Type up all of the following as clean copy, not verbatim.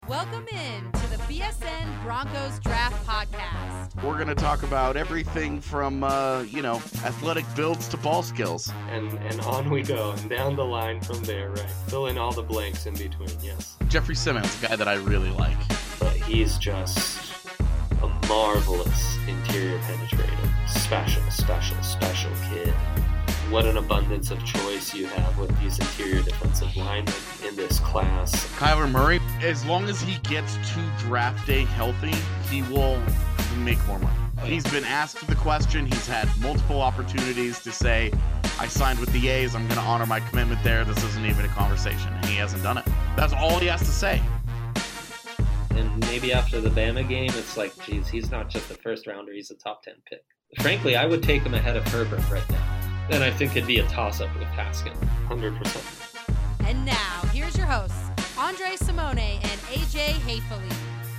Welcome in to the BSN Broncos Draft Podcast. We're going to talk about everything from, athletic builds to ball skills. And on we go, and down the line from there, right? Fill in all the blanks in between, yes. Jeffrey Simmons, a guy that I really like. But he's just a marvelous interior penetrator. Special kid. What an abundance of choice you have with these interior defensive linemen in this class. Kyler Murray, as long as he gets to draft day healthy, he will make more money. He's been asked the question. He's had multiple opportunities to say, I signed with the A's. I'm going to honor my commitment there. This isn't even a conversation. And he hasn't done it. That's all he has to say. And maybe after the Bama game, it's like, geez, he's not just a first rounder. He's a top 10 pick. Frankly, I would take him ahead of Herbert right now. And I think it'd be a toss-up with Haskins. 100%. And now, here's your hosts, Andre Simone and AJ Hayfley.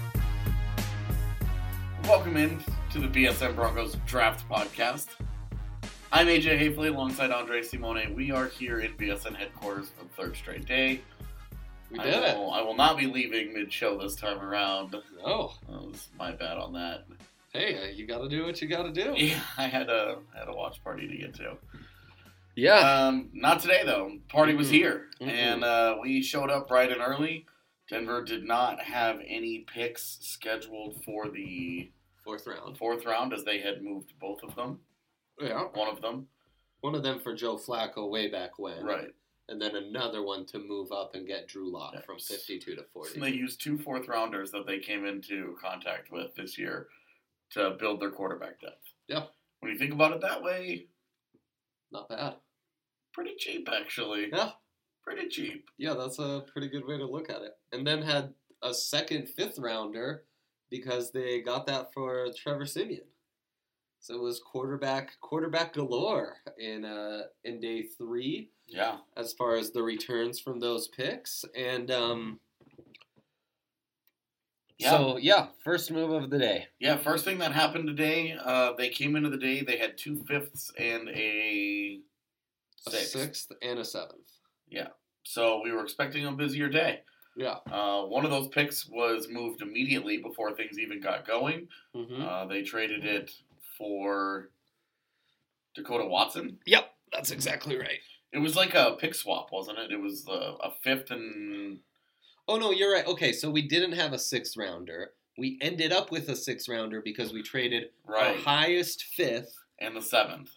Welcome in to the BSN Broncos Draft Podcast. I'm AJ Hayfley alongside Andre Simone. We are here in BSN headquarters for the third straight day. We did it. I will not be leaving mid-show this time around. No. That was my bad on that. Hey, you got to do what you got to do. Yeah, I had a watch party to get to. Yeah. Not today, though. Party was here, Mm-mm. and we showed up bright and early. Denver did not have any picks scheduled for the Fourth round. as they had moved both of them. Yeah. One of them. One of them for Joe Flacco way back when. Right. And then another one to move up and get Drew Lock Yes. from 52 to 40. So they used 2 fourth-rounders that they came into contact with this year to build their quarterback depth. Yeah. When you think about it that way, Not bad. pretty cheap, actually. Yeah. Pretty cheap. Yeah, that's a pretty good way to look at it. And then had a second fifth rounder because they got that for Trevor Siemian. So it was quarterback galore in day 3 Yeah. as far as the returns from those picks. And first move of the day. Yeah, first thing that happened today, they came into the day, they had 2 fifths and a A sixth. sixth and a seventh. Yeah. So we were expecting a busier day. Yeah. One of those picks was moved immediately before things even got going. Mm-hmm. They traded it for Dakota Watson. Yep, that's exactly right. It was like a pick swap, wasn't it? It was a fifth and... Oh, no, you're right. Okay, so we didn't have a sixth rounder. We ended up with a sixth rounder because we traded our highest fifth. And the 7th.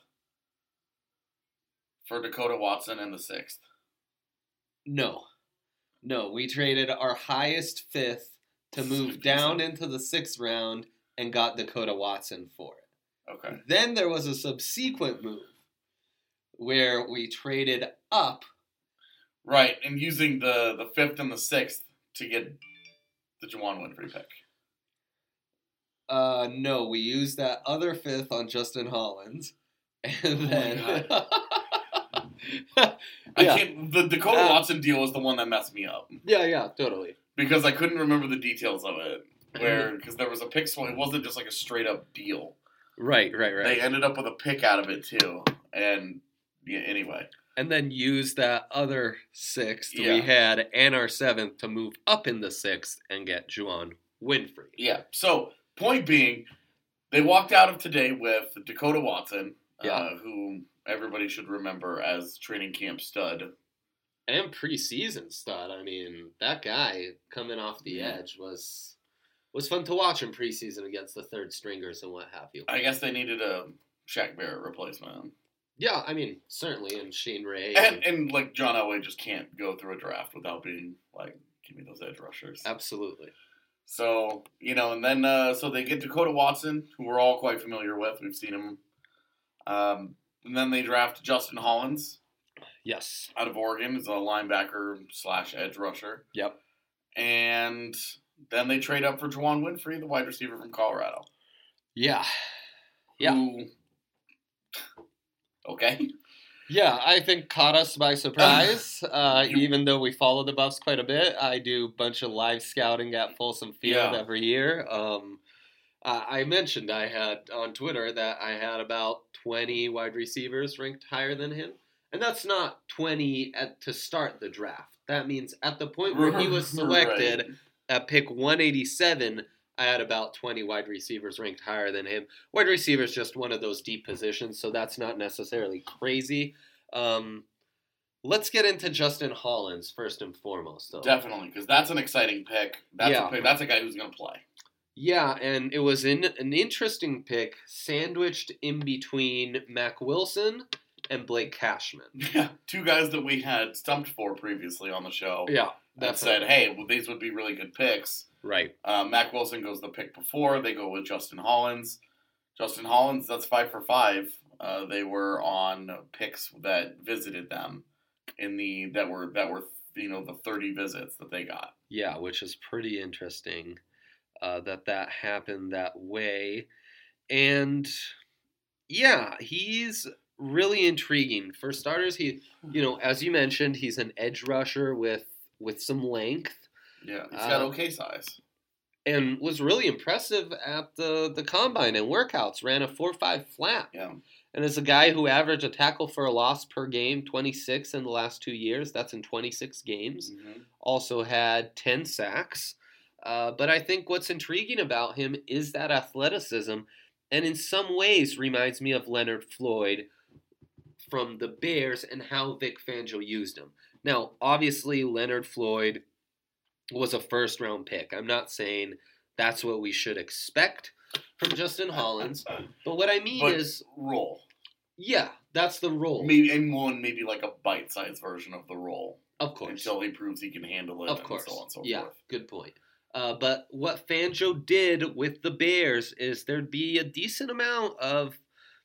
For Dakota Watson and the 6th. No, we traded our highest fifth to move down into the 6th round and got Dakota Watson for it. Okay. Then there was a subsequent move where we traded up. Right, and using the 5th and the 6th to get the Juwan Winfrey pick. No, we used that other fifth on Justin Hollins. And then... I can't. The Dakota Watson deal was the one that messed me up. Yeah, totally. Because I couldn't remember the details of it. Because there was a pick swap. It wasn't just like a straight up deal. Right. They ended up with a pick out of it too. And yeah, anyway. And then use that other 6th we had and our 7th to move up in the 6th and get Juwan Winfrey. Yeah. So, point being, they walked out of today with Dakota Watson, who everybody should remember as training camp stud. And preseason stud. I mean, that guy coming off the edge was fun to watch in preseason against the third stringers and what have you. I guess they needed a Shaq Barrett replacement. Yeah, I mean, certainly, and Shane Ray. And like, John Elway just can't go through a draft without being like, give me those edge rushers. Absolutely. So, and then, so they get Dakota Watson, who we're all quite familiar with. We've seen him. And then they draft Justin Hollins. Yes. Out of Oregon as a linebacker / edge rusher. Yep. And then they trade up for Juwan Winfrey, the wide receiver from Colorado. Yeah. Okay. Yeah, I think caught us by surprise. Even though we follow the Buffs quite a bit, I do a bunch of live scouting at Folsom Field every year. I mentioned I had on Twitter that I had about 20 wide receivers ranked higher than him. And that's not 20 to start the draft. That means at the point where he was selected, at pick 187, I had about 20 wide receivers ranked higher than him. Wide receiver is just one of those deep positions, so that's not necessarily crazy. Let's get into Justin Hollins first and foremost, though. Definitely, because that's an exciting pick. That's a guy who's going to play. Yeah, and it was an interesting pick, sandwiched in between Mac Wilson and Blake Cashman. Yeah, two guys that we had stumped for previously on the show. Yeah, that said, hey, well, these would be really good picks. Right. Mac Wilson goes the pick before. They go with Justin Hollins. Justin Hollins, that's 5 for 5. They were on picks that visited them that were the 30 visits that they got. Yeah, which is pretty interesting that happened that way. And yeah, he's really intriguing. For starters, he, as you mentioned, he's an edge rusher with some length. Yeah, he's got okay size. And was really impressive at the combine and workouts. Ran a 4.5 flat. Yeah. And as a guy who averaged a tackle for a loss per game, 26 in the last 2 years, that's in 26 games. Mm-hmm. Also had 10 sacks. But I think what's intriguing about him is that athleticism, and in some ways reminds me of Leonard Floyd from the Bears and how Vic Fangio used him. Now, obviously, Leonard Floyd was a first-round pick. I'm not saying that's what we should expect from Justin Hollins, but what I mean is role. Yeah, that's the role. Maybe like a bite-sized version of the role. Of course. Until he proves he can handle it. Of course. And so on and so yeah, forth. Good point. But what Fangio did with the Bears is there'd be a decent amount of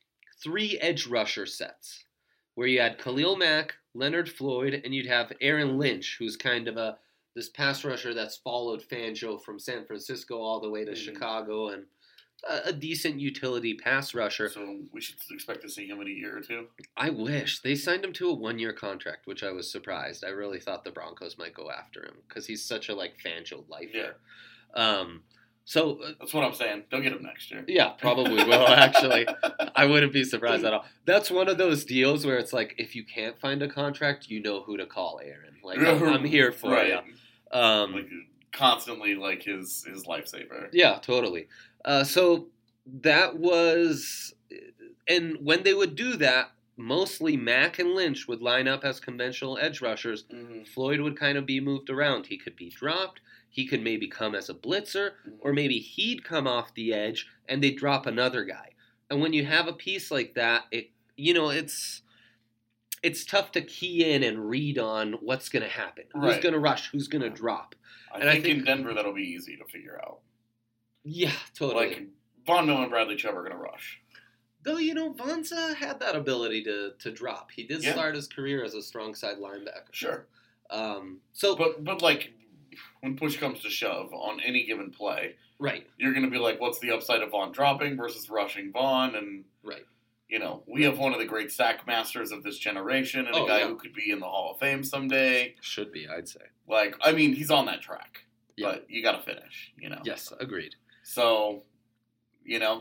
3 edge rusher sets, where you had Khalil Mack, Leonard Floyd, and you'd have Aaron Lynch, who's kind of this pass rusher that's followed Fangio from San Francisco all the way to Chicago, and a decent utility pass rusher. So we should expect to see him in a year or two? I wish. They signed him to a 1-year contract, which I was surprised. I really thought the Broncos might go after him because he's such a Fangio lifer. Yeah. So that's what I'm saying. They'll get him next year. Yeah, probably will, actually. I wouldn't be surprised at all. That's one of those deals where it's like, if you can't find a contract, you know who to call, Aaron. I'm here for you. Constantly his lifesaver. Yeah, totally. So that was, and when they would do that, mostly Mack and Lynch would line up as conventional edge rushers. Mm-hmm. Floyd would kind of be moved around. He could be dropped. He could maybe come as a blitzer, or maybe he'd come off the edge and they'd drop another guy. And when you have a piece like that, it's tough to key in and read on what's going to happen. Right. Who's going to rush? Who's going to drop? I think in Denver that'll be easy to figure out. Yeah, totally. Von Miller and Bradley Chubb are going to rush. Though, Von's had that ability to drop. He did start his career as a strong side linebacker. Sure. But when push comes to shove on any given play, right, you're going to be like, what's the upside of Von dropping versus rushing Von? And, right. We have one of the great sack masters of this generation and a guy who could be in the Hall of Fame someday. Should be, I'd say. He's on that track. Yeah. But you got to finish, Yes, agreed. So, Yeah.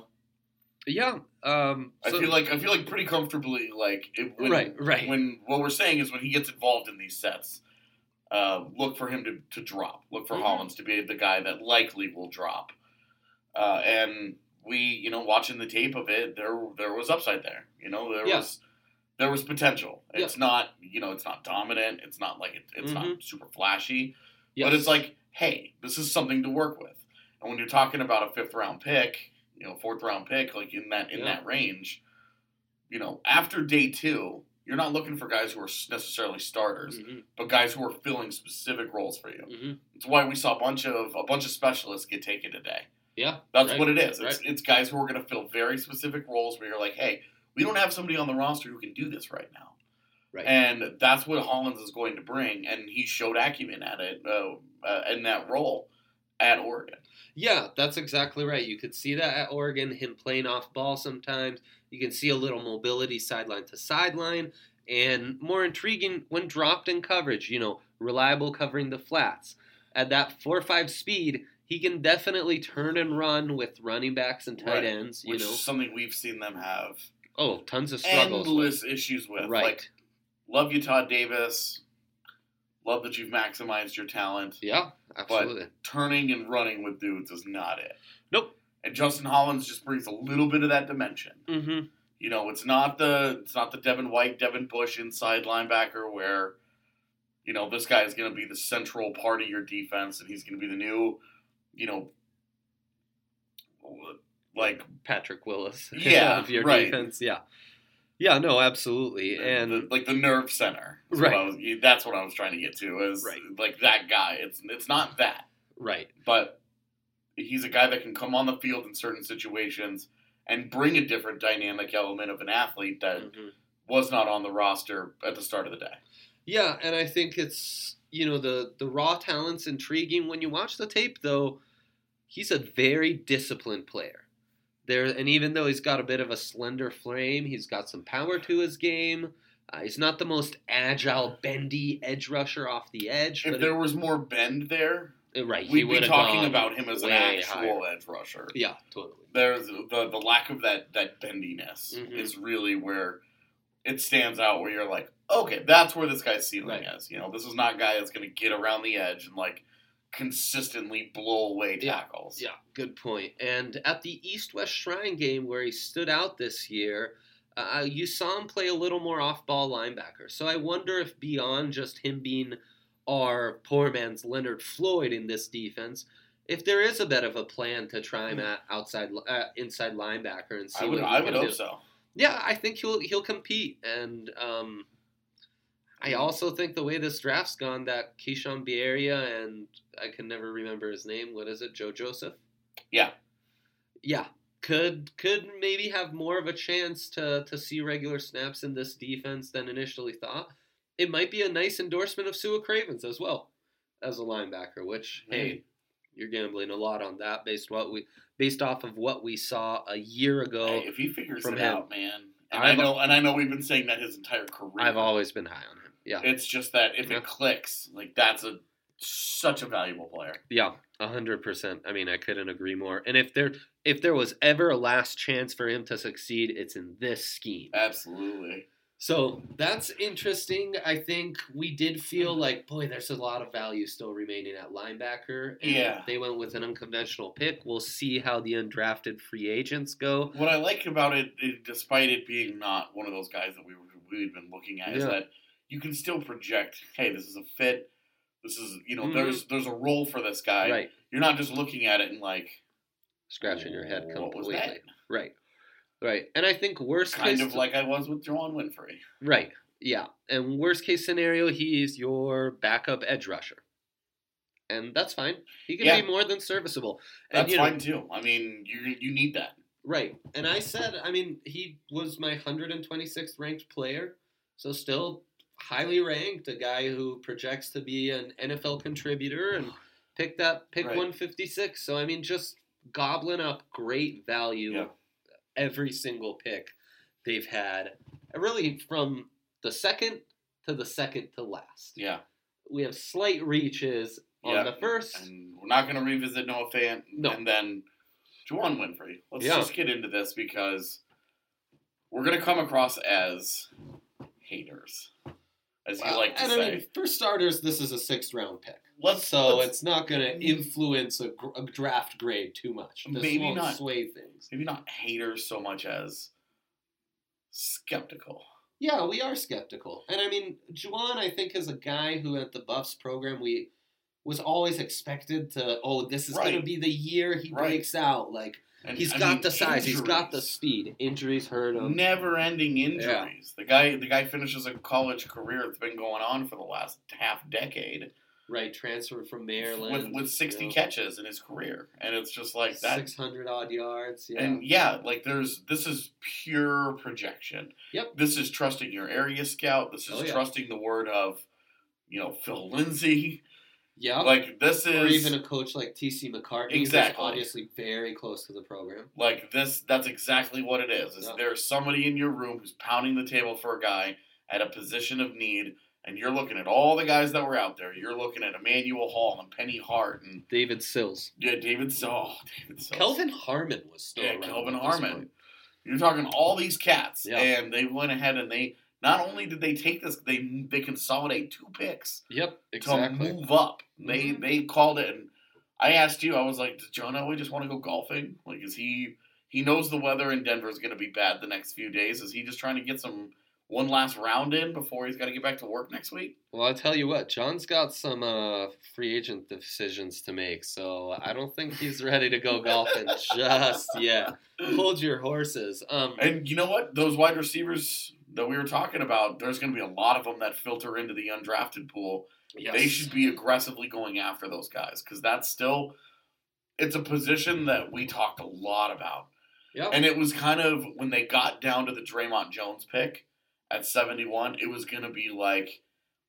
I feel like pretty comfortably, when what we're saying is when he gets involved in these sets, look for him to drop. Look for Hollins to be the guy that likely will drop. And we, watching the tape of it, there was upside there. There was potential. It's not, it's not dominant. It's not it's not super flashy. Yes. But it's like, hey, this is something to work with. And when you're talking about a 5th round pick, 4th round pick, in that range, after day 2, you're not looking for guys who are necessarily starters, but guys who are filling specific roles for you. Mm-hmm. It's why we saw a bunch of specialists get taken today. Yeah, that's what it is. It's guys who are going to fill very specific roles where you're like, hey, we don't have somebody on the roster who can do this right now. Right. And that's what Hollins is going to bring, and he showed acumen at it in that role at Oregon. Yeah, that's exactly right. You could see that at Oregon, him playing off ball sometimes. You can see a little mobility sideline to sideline, and more intriguing when dropped in coverage, reliable covering the flats. At that 4.5 speed, he can definitely turn and run with running backs and tight ends. Which is something we've seen them have. Oh, tons of struggles. Endless issues with. Right. Love you, Todd Davis. Love that you've maximized your talent. Yeah, absolutely. But turning and running with dudes is not it. Nope. And Justin Hollins just brings a little bit of that dimension. Mm-hmm. You know, it's not the Devin White, Devin Bush inside linebacker where, you know, this guy is going to be the central part of your defense and he's going to be the new, you know, like Patrick Willis. Yeah, of your right. defense. Yeah. Yeah, no, absolutely. And like the nerve center. Right. That's what I was trying to get to is right. like that guy. It's not that. Right. But he's a guy that can come on the field in certain situations and bring a different dynamic element of an athlete that was not on the roster at the start of the day. Yeah, and I think it's, you know, the raw talent's intriguing. When you watch the tape, though, he's a very disciplined player. And even though he's got a bit of a slender frame, he's got some power to his game. He's not the most agile, bendy edge rusher off the edge. If there was more bend there, right, we'd be talking about him as an actual edge rusher. Yeah, totally. There's the lack of that bendiness is really where it stands out, where you're like, okay, that's where this guy's ceiling is. You know, this is not a guy that's going to get around the edge and like consistently blow away tackles. Yeah, good point. And at the East-West Shrine game where he stood out this year, you saw him play a little more off-ball linebacker. So I wonder if beyond just him being our poor man's Leonard Floyd in this defense, if there is a bit of a plan to try him at inside linebacker and see I would hope so. Yeah, I think he'll compete. And I also think the way this draft's gone, that Keyshawn Bierria and I can never remember his name. What is it? Joe Joseph? Yeah. Yeah. Could maybe have more of a chance to see regular snaps in this defense than initially thought. It might be a nice endorsement of Sua Cravens as well as a linebacker, which, hey, you're gambling a lot on that based off of what we saw a year ago. Hey, if he figures it out, man. And I know we've been saying that his entire career. I've always been high on him. Yeah. It's just that if it clicks, like that's such a valuable player. Yeah, 100%. I mean, I couldn't agree more. And if there was ever a last chance for him to succeed, it's in this scheme. Absolutely. So that's interesting. I think we did feel like, boy, there's a lot of value still remaining at linebacker. And they went with an unconventional pick. We'll see how the undrafted free agents go. What I like about it, despite it being not one of those guys that we've been looking at, is that you can still project, hey, this is a fit. This is, you know, there's a role for this guy. Right. You're not just looking at it and like scratching your head completely. What was that? Right. Right. And I think kind of like I was with Juwan Winfrey. Right. Yeah. And worst case scenario, he's your backup edge rusher. And that's fine. He can be more than serviceable. And, that's fine too. I mean, you need that. Right. And I said, I mean, he was my 126th ranked player. So still highly ranked, a guy who projects to be an NFL contributor and pick 156. So, I mean, just gobbling up great value every single pick they've had. Really from the second to last. Yeah. We have slight reaches on the first. And we're not going to revisit Noah Fant and then Juwan Winfrey. Let's just get into this because we're going to come across as haters, as you like to say. I mean, for starters, this is a 6th round pick. It's not going to influence a draft grade too much. This won't sway things. Maybe not haters so much as skeptical. Yeah, we are skeptical. And I mean, Juwan, I think, is a guy who at the Buffs program was always expected to, this is going to be the year he breaks out. Like, he's got the size, he's got the speed. Injuries hurt him. Never-ending injuries. Yeah. The guy finishes a college career that's been going on for the last half decade. Right, transferred from Maryland. With 60 catches in his career. And it's just like that. 600-odd yards, And this is pure projection. Yep. This is trusting your area scout. This is trusting the word of, Phil Lindsay. Yeah. Like, this is... Or even a coach like T.C. McCartney. Exactly. Who's obviously very close to the program. Like, that's exactly what it is. There's somebody in your room who's pounding the table for a guy at a position of need, and you're looking at all the guys that were out there. You're looking at Emmanuel Hall and Penny Hart and... David Sills. Yeah, David Sills. Kelvin Harmon was still around. Kelvin Harmon. You're talking all these cats, and they went ahead and they not only did they take this, they consolidate 2 picks. Yep, exactly. To move up. They called it, and I asked you, I was like, does John Elway just want to go golfing? Like, is he knows the weather in Denver is going to be bad the next few days. Is he just trying to get one last round in before he's got to get back to work next week? Well, I'll tell you what, John's got some free agent decisions to make, so I don't think he's ready to go golfing just yet. Hold your horses. And you know what? Those wide receivers that we were talking about, there's going to be a lot of them that filter into the undrafted pool. Yes. They should be aggressively going after those guys because that's still – it's a position that we talked a lot about. Yep. And it was kind of – when they got down to the Draymond Jones pick at 71, it was going to be like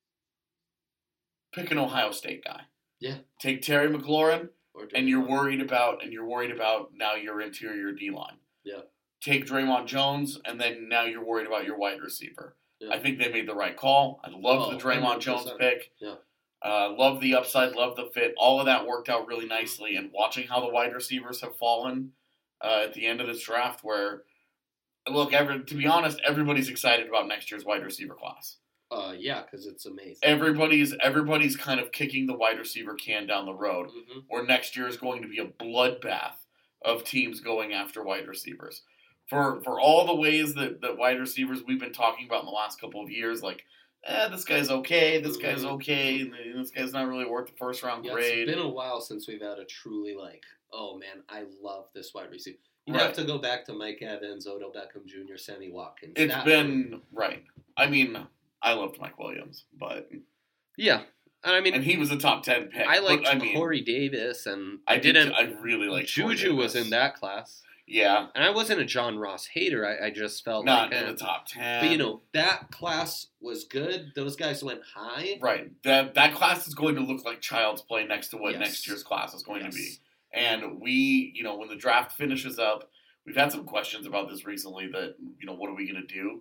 pick an Ohio State guy. Yeah. Take Terry McLaurin, and you're worried about now your interior D-line. Yeah. Take Draymond Jones, and then now you're worried about your wide receiver. Yeah. I think they made the right call. I love the Draymond 100%. Jones pick. Yeah. Love the upside, love the fit. All of that worked out really nicely. And watching how the wide receivers have fallen at the end of this draft where, look, to be honest, everybody's excited about next year's wide receiver class. Yeah, because it's amazing. Everybody's kind of kicking the wide receiver can down the road, where next year is going to be a bloodbath of teams going after wide receivers. For all the ways that wide receivers we've been talking about in the last couple of years, like, this guy's okay, this guy's okay, and this guy's not really worth the first round grade. It's been a while since we've had a truly oh man, I love this wide receiver. You have to go back to Mike Evans, Odell Beckham Jr., Sammy Watkins. It's been right. I mean, I loved Mike Williams, but yeah, and he was a top 10 pick. I liked Corey Davis, and I really liked Juju was in that class. Yeah, and I wasn't a John Ross hater. I just felt not in the top 10. But that class was good. Those guys went high. Right. That class is going to look like child's play next to what next year's class is going to be. And we, when the draft finishes up, we've had some questions about this recently that, what are we going to do?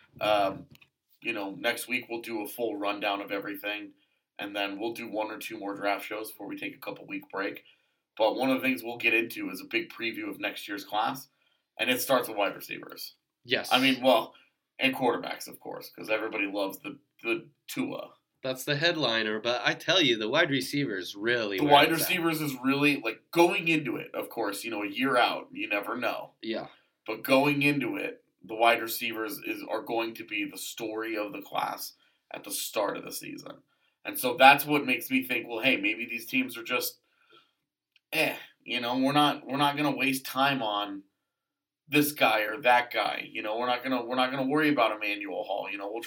Next week we'll do a full rundown of everything, and then we'll do 1 or 2 more draft shows before we take a couple-week break. But one of the things we'll get into is a big preview of next year's class, and it starts with wide receivers. Yes. And quarterbacks, of course, because everybody loves the Tua. That's the headliner, but I tell you, the wide receivers really. The wide receivers is really, going into it, of course, a year out, you never know. Yeah. But going into it, the wide receivers are going to be the story of the class at the start of the season. And so that's what makes me think, well, hey, maybe these teams are just, we're not going to waste time on this guy or that guy. We're not going to worry about Emmanuel Hall.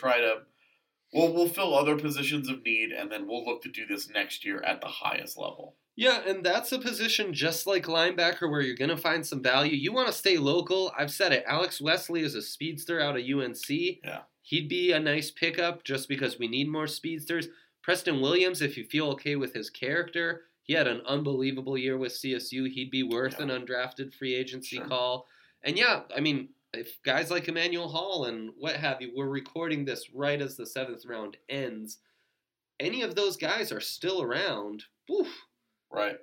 We'll fill other positions of need, and then we'll look to do this next year at the highest level. Yeah, and that's a position just like linebacker where you're going to find some value. You want to stay local. I've said it. Alex Wesley is a speedster out of UNC. Yeah. He'd be a nice pickup just because we need more speedsters. Preston Williams, if you feel okay with his character, he had an unbelievable year with CSU. He'd be worth an undrafted free agency call. And if guys like Emmanuel Hall and what have you, we're recording this right as the 7th round ends, any of those guys are still around. Woof. Right.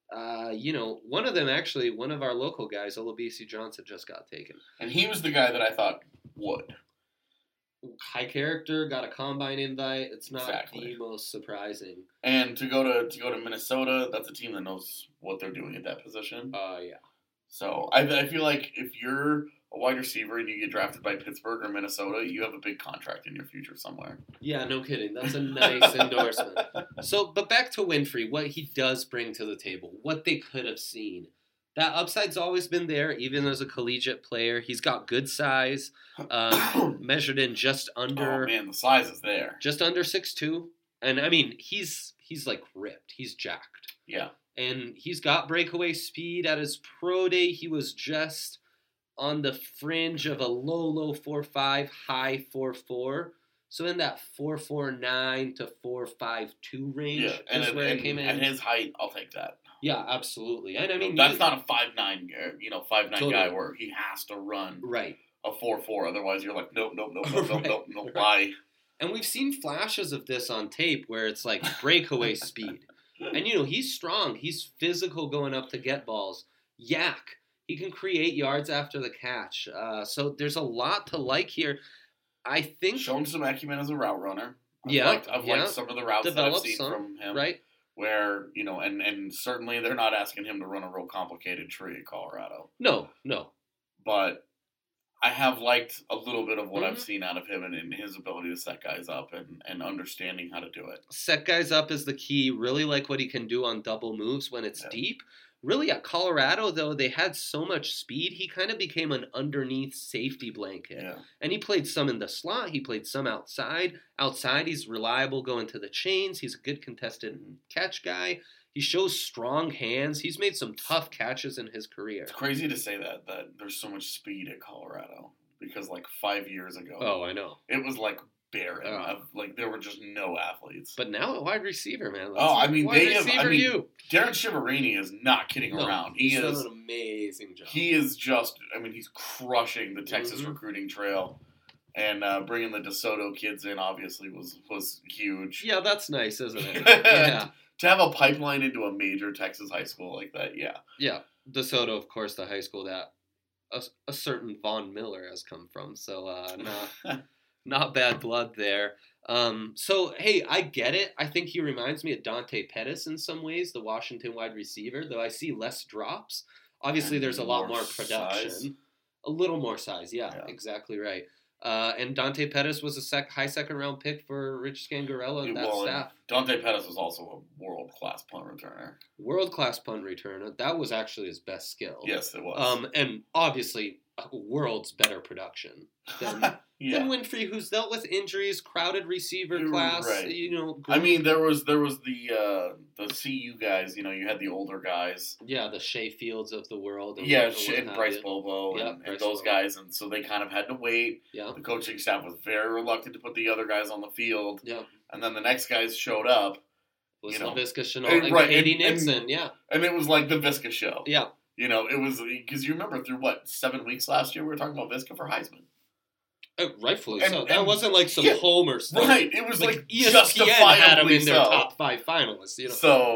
One of them actually, one of our local guys, Olabisi Johnson, just got taken. And he was the guy that I thought would. High character, got a combine invite. It's not the most surprising. And to go to Minnesota, that's a team that knows what they're doing at that position. Yeah. So I feel like if you're a wide receiver and you get drafted by Pittsburgh or Minnesota, you have a big contract in your future somewhere. Yeah, no kidding. That's a nice endorsement. But back to Winfrey, what he does bring to the table, what they could have seen. That upside's always been there, even as a collegiate player. He's got good size, measured in just under. Oh man, the size is there. Just under 6'2", and he's ripped. He's jacked. Yeah. And he's got breakaway speed. At his pro day, he was just on the fringe of a low 4.5, high 4.4. So in that 4.49 to 4.52 range is where it came in. At his height, I'll take that. Yeah, absolutely. And that's not a 5'9", 5'9" guy where he has to run a 4.4. Otherwise, you're like, nope, why? And we've seen flashes of this on tape where it's like breakaway speed. And, he's strong. He's physical going up to get balls. Yak. He can create yards after the catch. So there's a lot to like here. I think shown some acumen as a route runner. I've liked some of the routes that I've seen from him. Right. Where, and certainly they're not asking him to run a real complicated tree at Colorado. No. But I have liked a little bit of what I've seen out of him and his ability to set guys up and understanding how to do it. Set guys up is the key. Really like what he can do on double moves when it's deep. Really, at Colorado, though, they had so much speed, he kind of became an underneath safety blanket. Yeah. And he played some in the slot. He played some outside. Outside, he's reliable going to the chains. He's a good contested catch guy. He shows strong hands. He's made some tough catches in his career. It's crazy to say that there's so much speed at Colorado because 5 years ago. Oh, I know. It was barren. There were just no athletes. But now a wide receiver, man. Darren Shiverini is not kidding around. He's done an amazing job. He is just, he's crushing the Texas recruiting trail. And bringing the DeSoto kids in obviously was huge. Yeah, that's nice, isn't it? Yeah. To have a pipeline into a major Texas high school like that, yeah. Yeah. DeSoto, of course, the high school that a certain Von Miller has come from. So not bad blood there. So, hey, I get it. I think he reminds me of Dante Pettis in some ways, the Washington wide receiver, though I see less drops. Obviously, there's a lot more production. Size. A little more size, yeah. Exactly right. And Dante Pettis was a high second-round pick for Rich Scangarello and that staff. Dante Pettis was also a world-class punt returner. World-class punt returner. That was actually his best skill. Yes, it was. And obviously, a world's better production than Winfrey, who's dealt with injuries, crowded receiver class. Right. Great. There was the CU guys. You had the older guys. Yeah, the Shea Fields of the world. And and Bryce Bobo and those guys, and so they kind of had to wait. Yeah. The coaching staff was very reluctant to put the other guys on the field. Yeah. And then the next guys showed up. Was Laviska Shenault and Katie Nixon, And it was like the Visca show. Yeah. It was because you remember through 7 weeks last year we were talking about Visca for Heisman. Rightfully so. That wasn't like some Homer stuff. Right. It was like ESPN had him in their top 5 finalists. So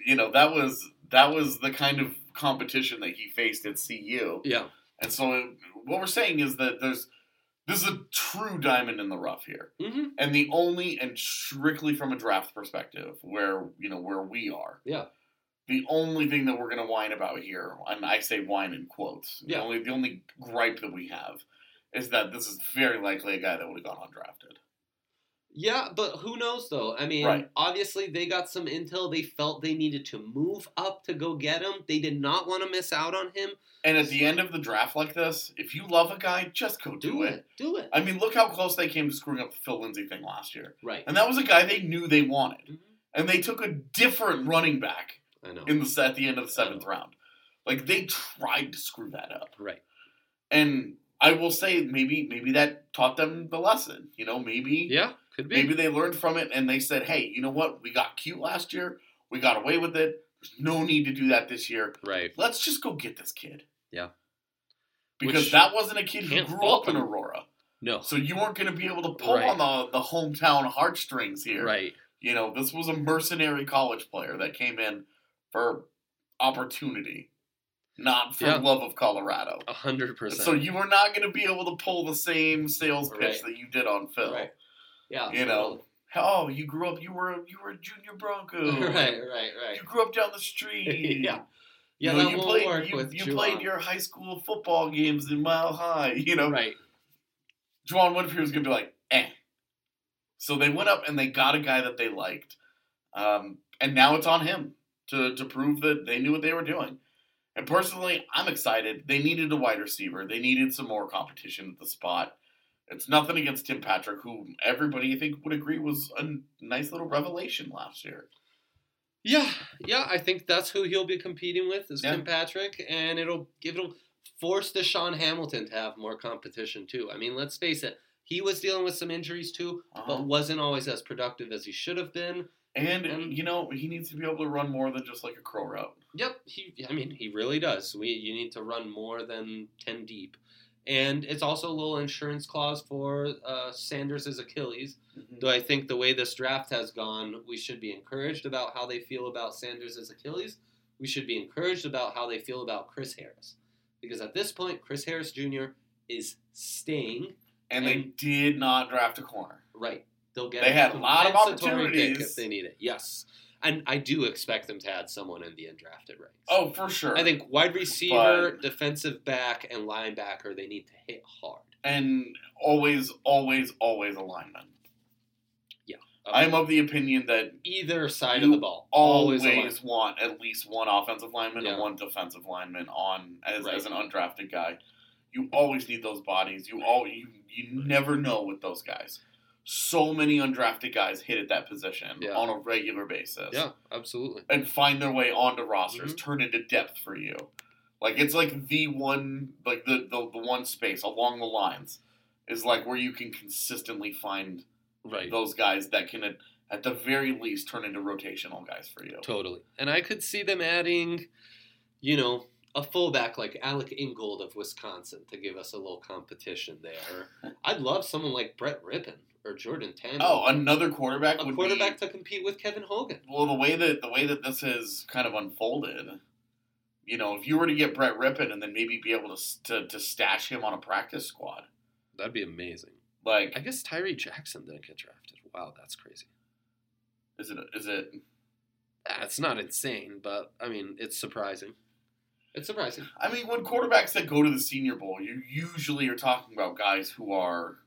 that was the kind of competition that he faced at CU. Yeah. And so what we're saying is that this is a true diamond in the rough here. Mm-hmm. And the only, and strictly from a draft perspective, where we are. Yeah. The only thing that we're going to whine about here, and I say whine in quotes, the only gripe that we have is that this is very likely a guy that would have gone undrafted. Yeah, but who knows, though? I mean, Obviously they got some intel. They felt they needed to move up to go get him. They did not want to miss out on him. And at the end of the draft like this, if you love a guy, just go do it. Do it. I mean, look how close they came to screwing up the Phil Lindsay thing last year. Right. And that was a guy they knew they wanted. Mm-hmm. And they took a different running back at the end of the 7th round. Like, they tried to screw that up. Right. And I will say maybe that taught them the lesson. Maybe. Yeah, could be. Maybe they learned from it and they said, hey, you know what? We got cute last year. We got away with it. There's no need to do that this year. Right. Let's just go get this kid. Yeah. Because that wasn't a kid who grew up in Aurora. No. So you weren't going to be able to pull on the hometown heartstrings here. Right. This was a mercenary college player that came in for opportunity, not for love of Colorado. 100%. So you were not going to be able to pull the same sales pitch that you did on Phil. Right. Yeah. Oh, you grew up. You were a junior Bronco. Right. You grew up down the street. Yeah. Yeah, you played your high school football games in Mile High. Right. Juwan Winfrey was going to be like, eh. So they went up and they got a guy that they liked. And now it's on him to prove that they knew what they were doing. And personally, I'm excited. They needed a wide receiver. They needed some more competition at the spot. It's nothing against Tim Patrick, who everybody, I think, would agree was a nice little revelation last year. Yeah, I think that's who he'll be competing with is Tim Patrick, and it'll force Deshaun Hamilton to have more competition too. I mean, let's face it, he was dealing with some injuries too, but wasn't always as productive as he should have been. And he needs to be able to run more than just like a crow route. Yep, he really does. You need to run more than 10 deep. And it's also a little insurance clause for Sanders' Achilles. Mm-hmm. Though I think the way this draft has gone, we should be encouraged about how they feel about Sanders' Achilles. We should be encouraged about how they feel about Chris Harris. Because at this point, Chris Harris Jr. is staying. And they did not draft a corner. Right. They'll get They had a lot of compensatory pick opportunities. if they need it. Yes. And I do expect them to add someone in the undrafted ranks. Oh, for sure. I think wide receiver, defensive back, and linebacker, they need to hit hard. And always, always, always a lineman. Yeah. I'm of the opinion that either side of the ball. Always want at least one offensive lineman and one defensive lineman on as an undrafted guy. You always need those bodies. You never know with those guys. So many undrafted guys hit at that position on a regular basis. Yeah, absolutely. And find their way onto rosters, turn into depth for you. Like it's like the one space along the lines is like where you can consistently find those guys that can at the very least turn into rotational guys for you. Totally. And I could see them adding, a fullback like Alec Ingold of Wisconsin to give us a little competition there. I'd love someone like Brett Rippon or Jordan Tandon. Oh, another quarterback to compete with Kevin Hogan. Well, the way that this has kind of unfolded, if you were to get Brett Rippon and then maybe be able to stash him on a practice squad, that'd be amazing. Like, I guess Tyree Jackson didn't get drafted. Wow, that's crazy. Is it? It's not insane, but I mean, it's surprising. It's surprising. I mean, when quarterbacks that go to the Senior Bowl, you usually are talking about guys who are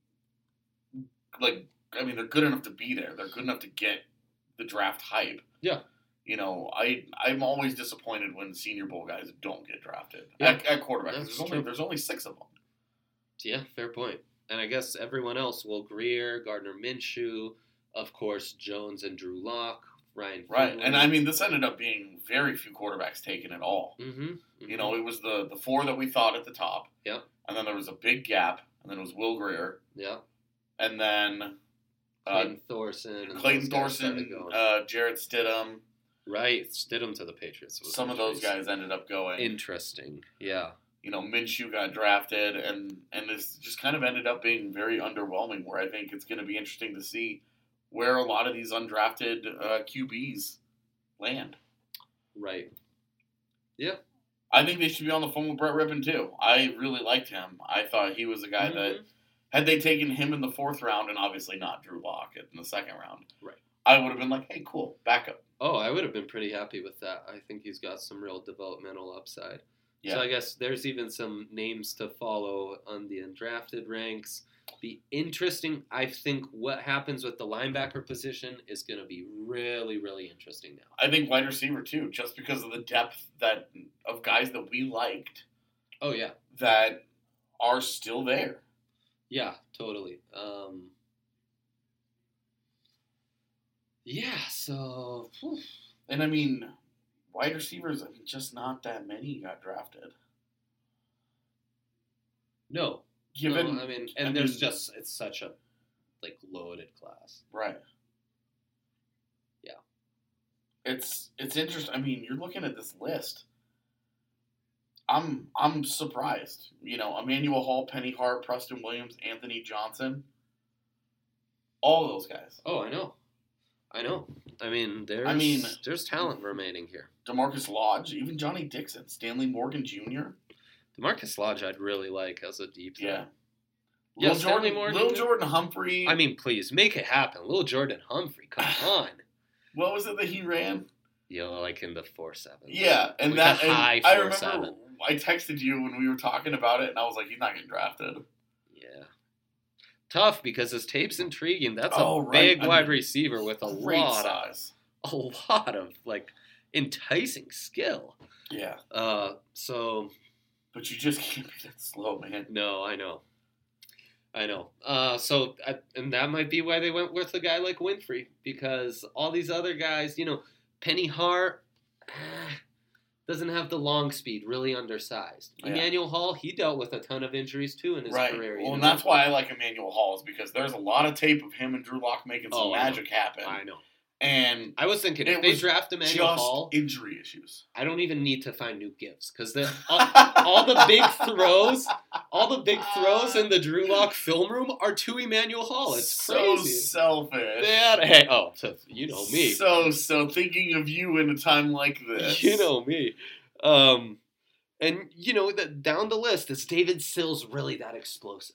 they're good enough to be there. They're good enough to get the draft hype. Yeah. I'm always disappointed when Senior Bowl guys don't get drafted at quarterback. There's only 6 of them. Yeah, fair point. And I guess everyone else, Will Grier, Gardner Minshew, of course, Jones and Drew Lock, Ryan Finley. Right, and I mean, this ended up being very few quarterbacks taken at all. Mm-hmm. It was the 4 that we thought at the top. Yep. And then there was a big gap, and then it was Will Grier. Yep. And then Clayton Thorson, Jarrett Stidham. Right, Stidham to the Patriots. Some of those guys ended up going. Interesting, yeah. Minshew got drafted, and this just kind of ended up being very underwhelming, where I think it's going to be interesting to see where a lot of these undrafted QBs land. Right. Yeah. I think they should be on the phone with Brett Rippon, too. I really liked him. I thought he was a guy that, had they taken him in the 4th round, and obviously not Drew Lock in the 2nd round, I would have been like, hey, cool, backup. Oh, I would have been pretty happy with that. I think he's got some real developmental upside. Yeah. So I guess there's even some names to follow on the undrafted ranks. Be interesting. I think what happens with the linebacker position is going to be really, really interesting now. I think wide receiver too, just because of the depth of guys that we liked. Oh yeah, that are still there. Yeah, totally. Yeah. So, and I mean, wide receivers. I mean, just not that many got drafted. No. It's such a loaded class. Right. Yeah. It's interesting. I mean, you're looking at this list. I'm surprised. Emmanuel Hall, Penny Hart, Preston Williams, Anthony Johnson. All those guys. Oh, I know. I mean, there's talent remaining here. DeMarcus Lodge, even Johnny Dixon, Stanley Morgan Jr. DeMarcus Lodge, I'd really like as a deep threat. Yeah. Lil Jordan Humphrey. I mean, please make it happen. Lil Jordan Humphrey, come on. What was it that he ran? Like in the 4.7. Yeah, and like high 4.7. I remember I texted you when we were talking about it, and I was like, he's not getting drafted. Yeah. Tough because his tape's intriguing. That's a big wide receiver with a lot of enticing skill. Yeah. But you just can't be that slow, man. No, I know. And that might be why they went with a guy like Winfrey, because all these other guys, Penny Hart doesn't have the long speed, really undersized. Yeah. Emmanuel Hall, he dealt with a ton of injuries too in his career. Well, and that's why I like Emmanuel Hall, is because there's a lot of tape of him and Drew Lock making some magic happen. I know. And I was thinking, if they draft Emmanuel Hall, injury issues. I don't even need to find new gifts, because all the big throws in the Drew Lock film room are to Emmanuel Hall. It's crazy. So selfish. You know me. So thinking of you in a time like this. You know me. And down the list, is David Sills really that explosive?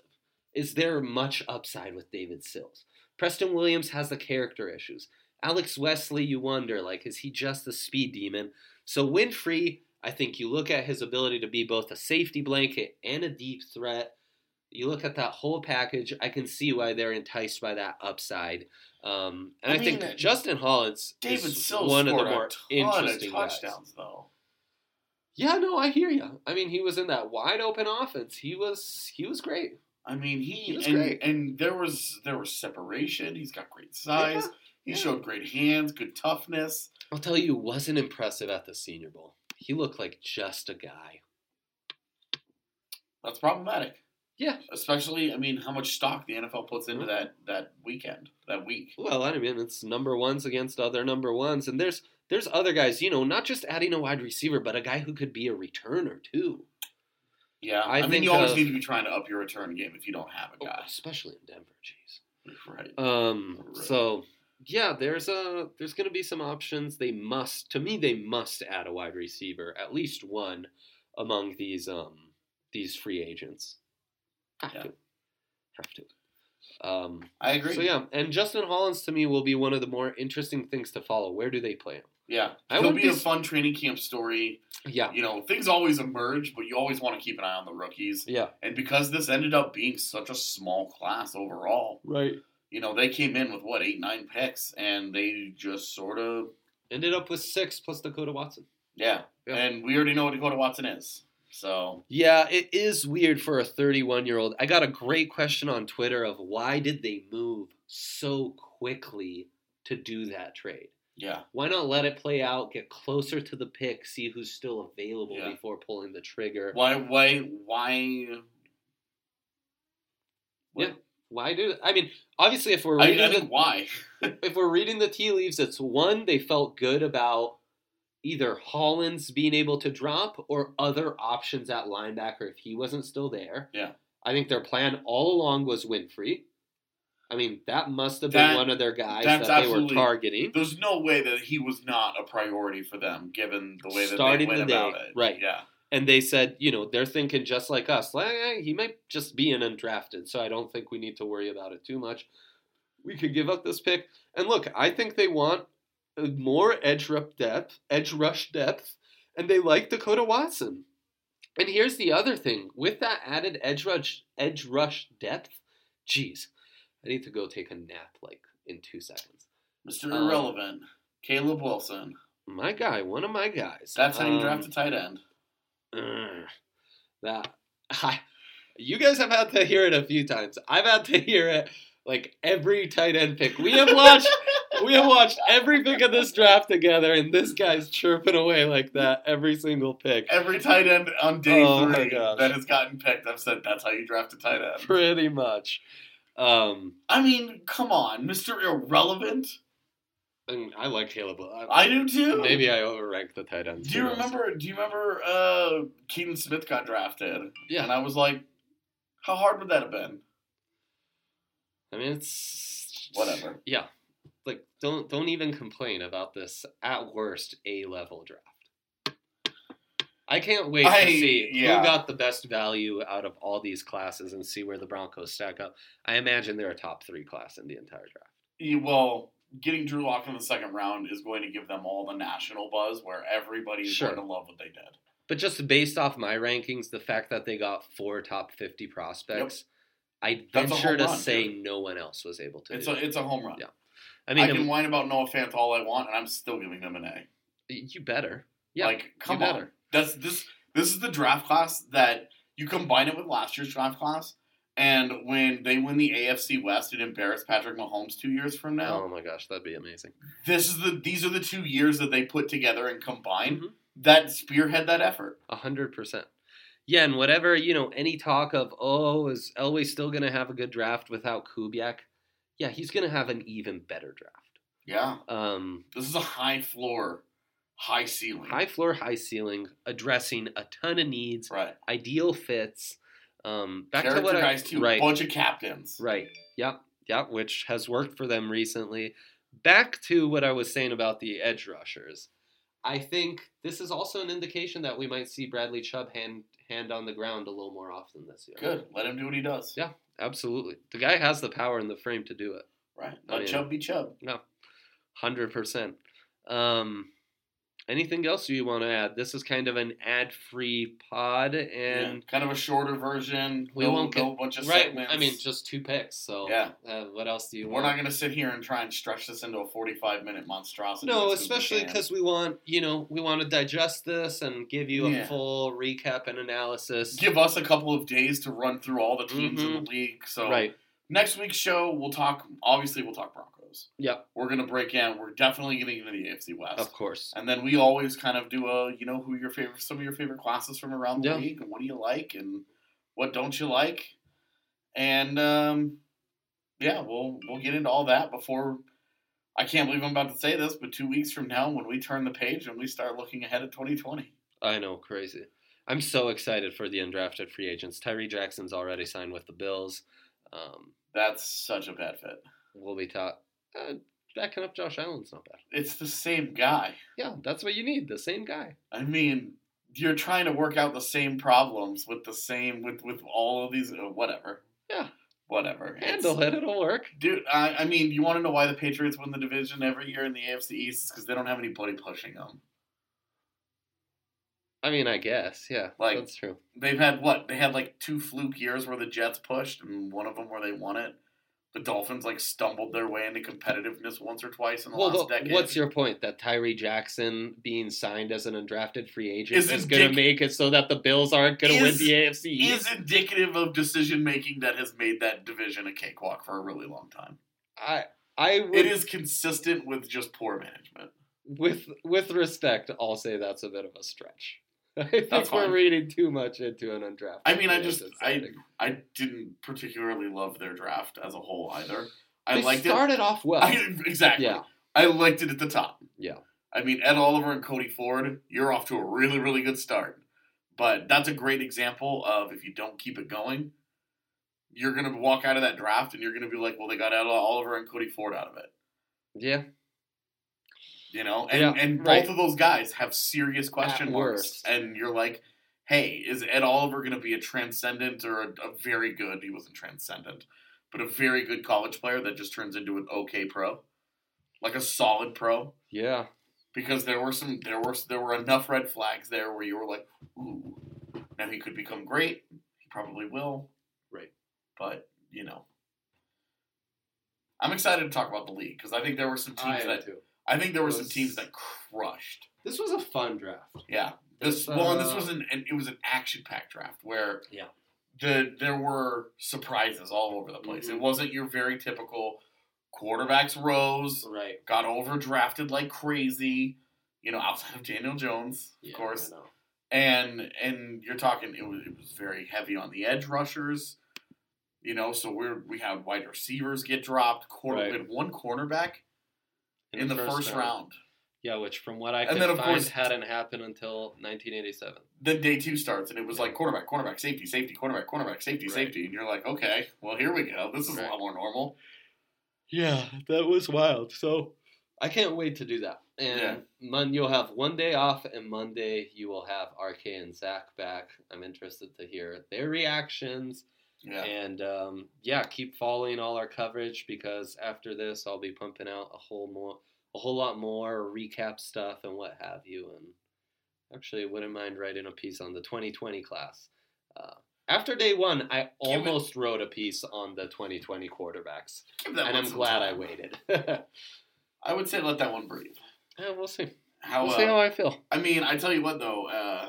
Is there much upside with David Sills? Preston Williams has the character issues. Alex Wesley, you wonder, like, is he just a speed demon? So Winfrey, I think you look at his ability to be both a safety blanket and a deep threat. You look at that whole package, I can see why they're enticed by that upside. And I think Justin Holland's David Sills one of the scored more a ton interesting of touchdowns, though. Yeah, no, I hear you. I mean, he was in that wide open offense. He was great. I mean, He was and, great. and there was separation. He's got great size. He showed great hands, good toughness. I'll tell you, wasn't impressive at the Senior Bowl. He looked like just a guy. That's problematic. Yeah. Especially, I mean, how much stock the NFL puts into that week. Well, I mean, it's number ones against other number ones, and there's other guys, not just adding a wide receiver, but a guy who could be a returner too. Yeah, I mean, you always need to be trying to up your return game if you don't have a guy, especially in Denver. Jeez. Right. Right. So yeah, there's going to be some options. They must add a wide receiver, at least one, among these free agents. Have to. I agree. So yeah, and Justin Hollins to me will be one of the more interesting things to follow. Where do they play him? Yeah, he'll be a fun training camp story. Yeah. Things always emerge, but you always want to keep an eye on the rookies. Yeah. And because this ended up being such a small class overall, right? They came in with 8, 9 picks, and they just sort of ended up with 6 plus Dakota Watson. Yeah. And we already know what Dakota Watson is. So yeah, it is weird for a 31-year-old. I got a great question on Twitter of why did they move so quickly to do that trade? Yeah. Why not let it play out, get closer to the pick, see who's still available before pulling the trigger? Why? Yeah. Why do? I mean, obviously, if we're reading why, if we're reading the tea leaves, it's one, they felt good about either Hollins being able to drop or other options at linebacker if he wasn't still there. Yeah. I think their plan all along was Winfrey. I mean, that must have been one of their guys that they were targeting. There's no way that he was not a priority for them, given the way that they went about it. Right. Yeah. And they said, they're thinking just like us. He might just be an undrafted, so I don't think we need to worry about it too much. We could give up this pick. And look, I think they want more edge rush depth, and they like Dakota Watson. And here's the other thing. With that added edge rush depth, geez, I need to go take a nap in 2 seconds. Mr. Irrelevant, Caleb Wilson. My guy, one of my guys. That's how you draft a tight end. You guys have had to hear it a few times. I've had to hear it every tight end pick. We have watched every pick of this draft together, and this guy's chirping away like that every single pick. Every tight end on day 3 that has gotten picked, I've said that's how you draft a tight end. Pretty much. I mean, come on, Mr. Irrelevant. I like Caleb. I do too. Maybe I overranked the tight ends. Do you remember Keaton Smith got drafted? Yeah. And I was like, how hard would that have been? I mean, it's whatever. Yeah. Don't even complain about this at worst A-level draft. I can't wait to see who got the best value out of all these classes and see where the Broncos stack up. I imagine they're a top 3 class in the entire draft. Well, getting Drew Lock in the second round is going to give them all the national buzz where everybody's going to love what they did. But just based off my rankings, the fact that they got 4 top 50 prospects, I venture to say no one else was able to. It's a home run. Yeah, I can whine about Noah Fant all I want, and I'm still giving them an A. You better. Yeah, come on. This is the draft class that you combine it with last year's draft class. And when they win the AFC West and embarrass Patrick Mahomes 2 years from now, oh my gosh, that'd be amazing. These are the 2 years that they put together and combine that spearhead that effort. 100%. Yeah, and whatever any talk of is Elway still going to have a good draft without Kubiak? Yeah, he's going to have an even better draft. Yeah. This is a high floor, high ceiling. High floor, high ceiling, addressing a ton of needs. Right. Ideal fits. Back Character to what guys too. Right. Bunch of captains. Right. Yep, which has worked for them recently. Back to what I was saying about the edge rushers. I think this is also an indication that we might see Bradley Chubb hand on the ground a little more often this year. Good. Let him do what he does. Yeah. absolutely. The guy has the power and the frame to do it. Right. Let Chubb be Chubb. No, 100%. Anything else you want to add? This is kind of an ad-free pod, and kind of a shorter version. We won't get a bunch of right. segments. I mean, just 2 picks. So what else do you want? We're not going to sit here and try and stretch this into a 45-minute monstrosity. No, especially because we want to digest this and give you a full recap and analysis. Give us a couple of days to run through all the teams in the league. So next week's show, we'll talk Broncos. Yep. We're going to break in. We're definitely getting into the AFC West. Of course. And then we always kind of do some of your favorite classes from around the league, and what do you like and what don't you like. And we'll get into all that before, I can't believe I'm about to say this, but 2 weeks from now when we turn the page and we start looking ahead at 2020. I know, crazy. I'm so excited for the undrafted free agents. Tyree Jackson's already signed with the Bills. That's such a bad fit. We'll be taught. Backing up Josh Allen's not bad. It's the same guy. Yeah, that's what you need, the same guy. I mean, you're trying to work out the same problems with all of these, whatever. Yeah. Whatever. Handle it, it'll work. Dude, I mean, you want to know why the Patriots win the division every year in the AFC East? It's because they don't have anybody pushing them. I mean, I guess, yeah, that's true. They've had what? They had 2 fluke years where the Jets pushed, and one of them where they won it. The Dolphins stumbled their way into competitiveness once or twice in the last decade. What's your point? That Tyree Jackson being signed as an undrafted free agent is going to make it so that the Bills aren't going to win the AFC East? Is indicative of decision making that has made that division a cakewalk for a really long time. It is consistent with just poor management. With respect, I'll say that's a bit of a stretch. I think we're reading too much into an undrafted. I mean, I didn't particularly love their draft as a whole either. They started off well. Exactly. Yeah. I liked it at the top. Yeah. I mean, Ed Oliver and Cody Ford, you're off to a really, really good start. But that's a great example of if you don't keep it going, you're going to walk out of that draft and you're going to be like, well, they got Ed Oliver and Cody Ford out of it. Yeah. And both of those guys have serious question marks. And you're like, hey, is Ed Oliver going to be a transcendent or a very good, he wasn't transcendent, but a very good college player that just turns into an okay pro? Like a solid pro? Yeah. Because there were enough red flags there where you were like, ooh, now he could become great. He probably will. Right. But, I'm excited to talk about the league because I think there were some teams that crushed. This was a fun draft. Yeah. This was an action-packed draft where there were surprises all over the place. Mm-hmm. It wasn't your very typical quarterbacks rose, got overdrafted like crazy, outside of Daniel Jones, of course. And you're talking it was very heavy on the edge rushers. So we had wide receivers get dropped. We had one cornerback in the first round. Yeah, which from what I could find hadn't happened until 1987. Then day 2 starts, and it was like quarterback, safety, quarterback, safety. And you're like, okay, well, here we go. This is a lot more normal. Yeah, that was wild. So I can't wait to do that. And you'll have one day off, and Monday you will have RK and Zach back. I'm interested to hear their reactions. Yeah. And, keep following all our coverage because after this I'll be pumping out a whole lot more recap stuff and what have you. And actually, I wouldn't mind writing a piece on the 2020 class. After day 1, I almost wrote a piece on the 2020 quarterbacks. And I'm glad I waited. I would say let that one breathe. Yeah, we'll see. We'll see how I feel. I mean, I tell you what, though,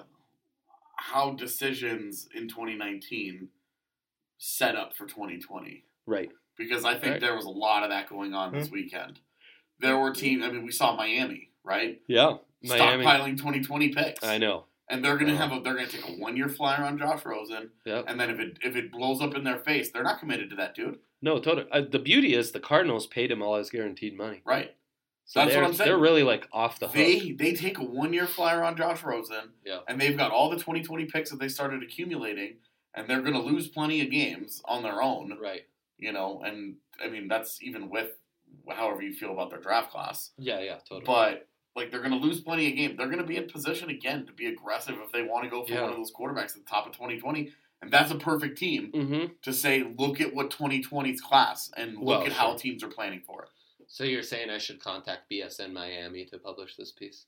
how decisions in 2019 set up for 2020. Right. Because I think there was a lot of that going on this weekend. There were teams, we saw Miami, right? Yeah. Stockpiling 2020 picks. I know. And they're gonna take a 1-year flyer on Josh Rosen. Yep. And then if it blows up in their face, they're not committed to that dude. No, totally. The beauty is the Cardinals paid him all his guaranteed money. Right. So that's what I'm saying. They're really off the hook. They take a 1-year flyer on Josh Rosen. Yeah. And they've got all the 2020 picks that they started accumulating, and they're gonna lose plenty of games on their own. Right. And that's even with however you feel about their draft class. Yeah, totally. But they're going to lose plenty of games. They're going to be in position again to be aggressive if they want to go for one of those quarterbacks at the top of 2020. And that's a perfect team to say, look at what 2020's class and look at how teams are planning for it. So you're saying I should contact BSN Miami to publish this piece?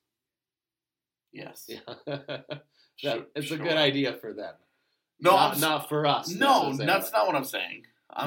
Yes. Yeah. It's a good idea for them. No, not for us. No, that's not what I'm saying. I'm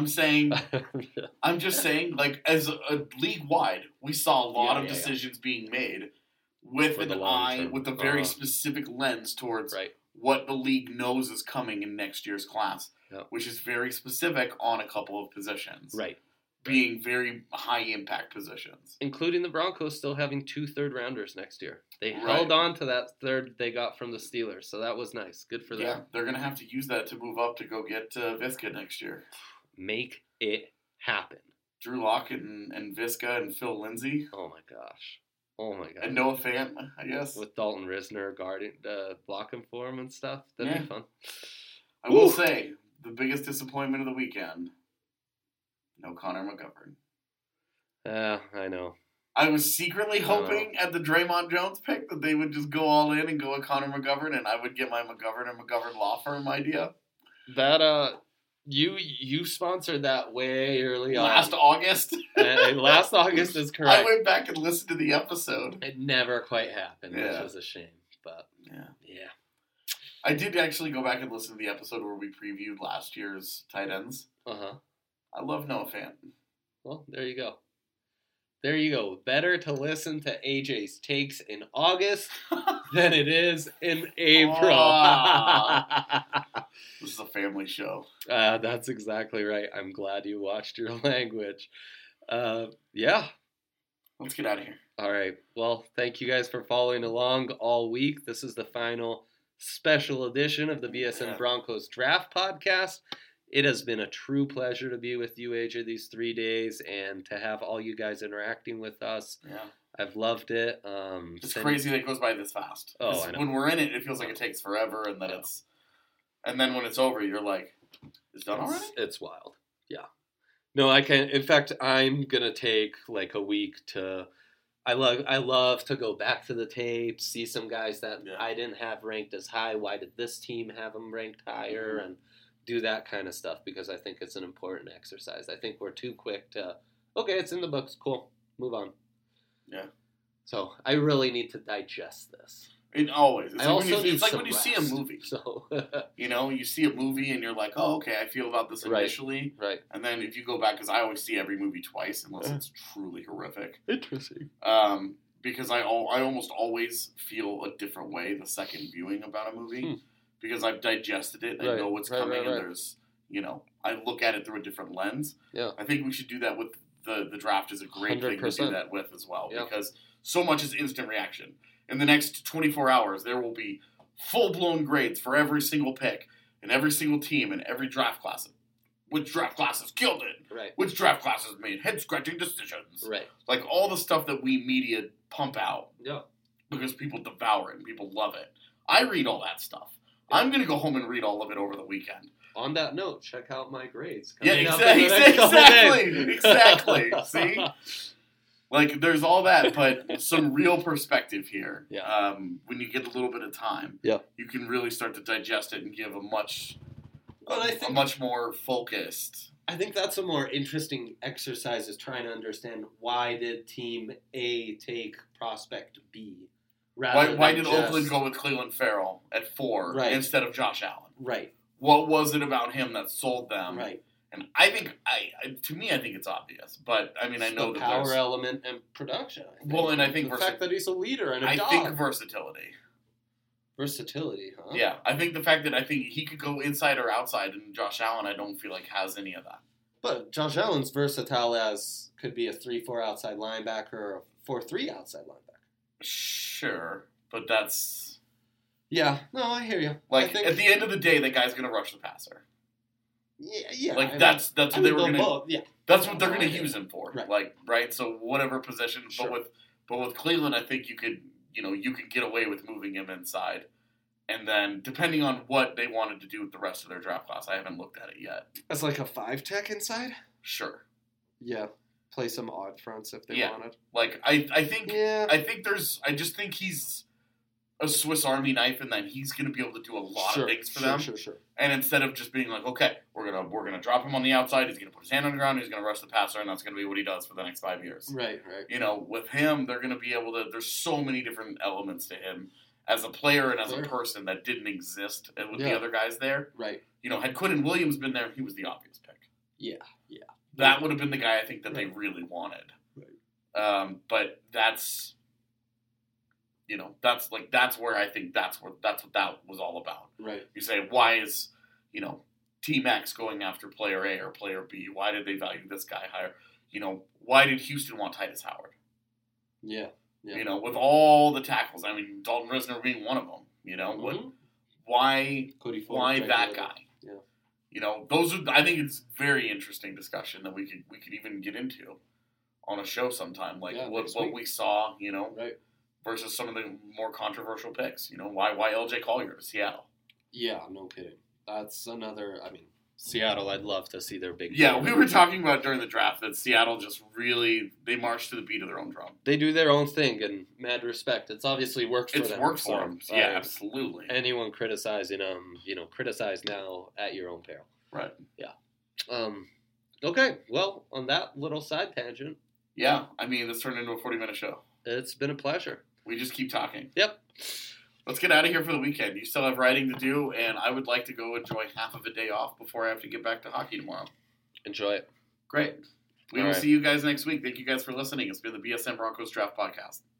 just saying, like, as a league-wide, we saw a lot of decisions being made with an eye, with a very specific lens towards what the league knows is coming in next year's class, which is very specific on a couple of positions. Right. Being very high-impact positions. Including the Broncos still having 2 third-rounders next year. They held on to that third they got from the Steelers, so that was nice. Good for them. Yeah, they're going to have to use that to move up to go get Visca next year. Make it happen. Drew Lock and Visca and Phil Lindsay. Oh, my gosh. And Noah Fant, I guess. With Dalton Risner blocking for him and stuff. That'd be fun. I will say, the biggest disappointment of the weekend, no Connor McGovern. I know. I was secretly hoping at the Draymond Jones pick that they would just go all in and go with Connor McGovern, and I would get my McGovern and McGovern law firm idea. That, you sponsored that way early on. Last August? Last August is correct. I went back and listened to the episode. It never quite happened, which was a shame. But, yeah. I did actually go back and listen to the episode where we previewed last year's tight ends. I love Noah Fant. Well, there you go. Better to listen to AJ's takes in August than it is in April. This is a family show. That's exactly right. I'm glad you watched your language. Yeah. Let's get out of here. All right. Well, thank you guys for following along all week. This is the final special edition of the BSN Broncos Draft Podcast. It has been a true pleasure to be with you, AJ, these 3 days, and to have all you guys interacting with us. Yeah. I've loved it. It's crazy that it goes by this fast. Oh, I know. When we're in it, it feels like it takes forever, and then and then when it's over, you're like, it's done already? It's wild. Yeah. No, I can't. In fact, I'm going to take like a week to... I love to go back to the tape, see some guys that I didn't have ranked as high. Why did this team have them ranked higher? And do that kind of stuff because I think it's an important exercise. I think we're too quick to, okay, it's in the books, cool, move on. Yeah. So I really need to digest this. It always. It's like when you rest, see a movie. So you see a movie and you're like, oh, okay, I feel about this initially. Right. And then if you go back, because I always see every movie twice unless it's truly horrific. Interesting. Because I almost always feel a different way the second viewing about a movie. Because I've digested it, I know what's coming, and there's, I look at it through a different lens. Yeah. I think we should do that with the draft is a great 100%. Thing to do that with as well, because so much is instant reaction. In the next 24 hours, there will be full-blown grades for every single pick, and every single team, and every draft class. Which draft classes killed it? Right. Which draft classes made head-scratching decisions? Right. Like all the stuff that we media pump out. Yeah. Because people devour it and people love it. I read all that stuff. I'm going to go home and read all of it over the weekend. On that note, check out my grades. Yeah, exactly. See? Like, there's all that, but some real perspective here. Yeah. When you get a little bit of time, you can really start to digest it and give a much more focused. I think that's a more interesting exercise is trying to understand why did Team A take prospect B. Why did Oakland go with Cleveland Farrell at 4 instead of Josh Allen? Right. What was it about him that sold them? Right. And I think, I think it's obvious. But, I mean, I know the that power element and production. Well, and I think the fact that he's a leader and a dog. I think versatility. Versatility, huh? Yeah. I think the fact that I think he could go inside or outside, and Josh Allen, I don't feel like has any of that. But Josh Allen's versatile as could be a 3-4 outside linebacker or a 4-3 outside linebacker. Sure, but that's... Yeah, no, I hear you. Like, at the end of the day, that guy's going to rush the passer. Yeah. Like, that's what they were going to... Yeah. That's what they're going to use him for. Right. Like, right? So, whatever position. Sure. But with Cleveland, I think you could get away with moving him inside. And then, depending on what they wanted to do with the rest of their draft class, I haven't looked at it yet. As like a 5-tech inside? Sure. Yeah. Play some odd fronts if they wanted. Like, I just think he's a Swiss Army knife, and then he's going to be able to do a lot of things for them. Sure. And instead of just being like, okay, we're gonna drop him on the outside, he's gonna put his hand on the ground, he's gonna rush the passer, and that's gonna be what he does for the next 5 years. Right. You know, with him, they're gonna be able to. There's so many different elements to him as a player and as a person that didn't exist with the other guys there. Right. You know, had Quinnen Williams been there, he was the obvious pick. Yeah. That would have been the guy I think that they really wanted. Right. But that's. You know, that's where I think that's what that was all about. Right. You say, why is, you know, Team X going after player A or player B? Why did they value this guy higher? You know, why did Houston want Titus Howard? Yeah. You know, with all the tackles. I mean, Dalton Risner being one of them. You know, why that guy? Yeah. You know, those are. I think it's very interesting discussion that we could even get into on a show sometime. Like what we saw. You know. Right. Versus some of the more controversial picks. You know, why LJ Collier to Seattle? Yeah, no kidding. That's another, I mean, Seattle, I'd love to see their big... Yeah, we were talking about during the draft that Seattle just really, they march to the beat of their own drum. They do their own thing, and mad respect. It's obviously worked for them. It's worked for them. Yeah, absolutely. Anyone criticizing them, you know, criticize now at your own peril. Right. Yeah. Okay, well, on that little side tangent... Yeah, I mean, this turned into a 40-minute show. It's been a pleasure. We just keep talking. Yep. Let's get out of here for the weekend. You still have writing to do, and I would like to go enjoy half of a day off before I have to get back to hockey tomorrow. Enjoy it. Great. We will see you guys next week. Thank you guys for listening. It's been the BSN Broncos Draft Podcast.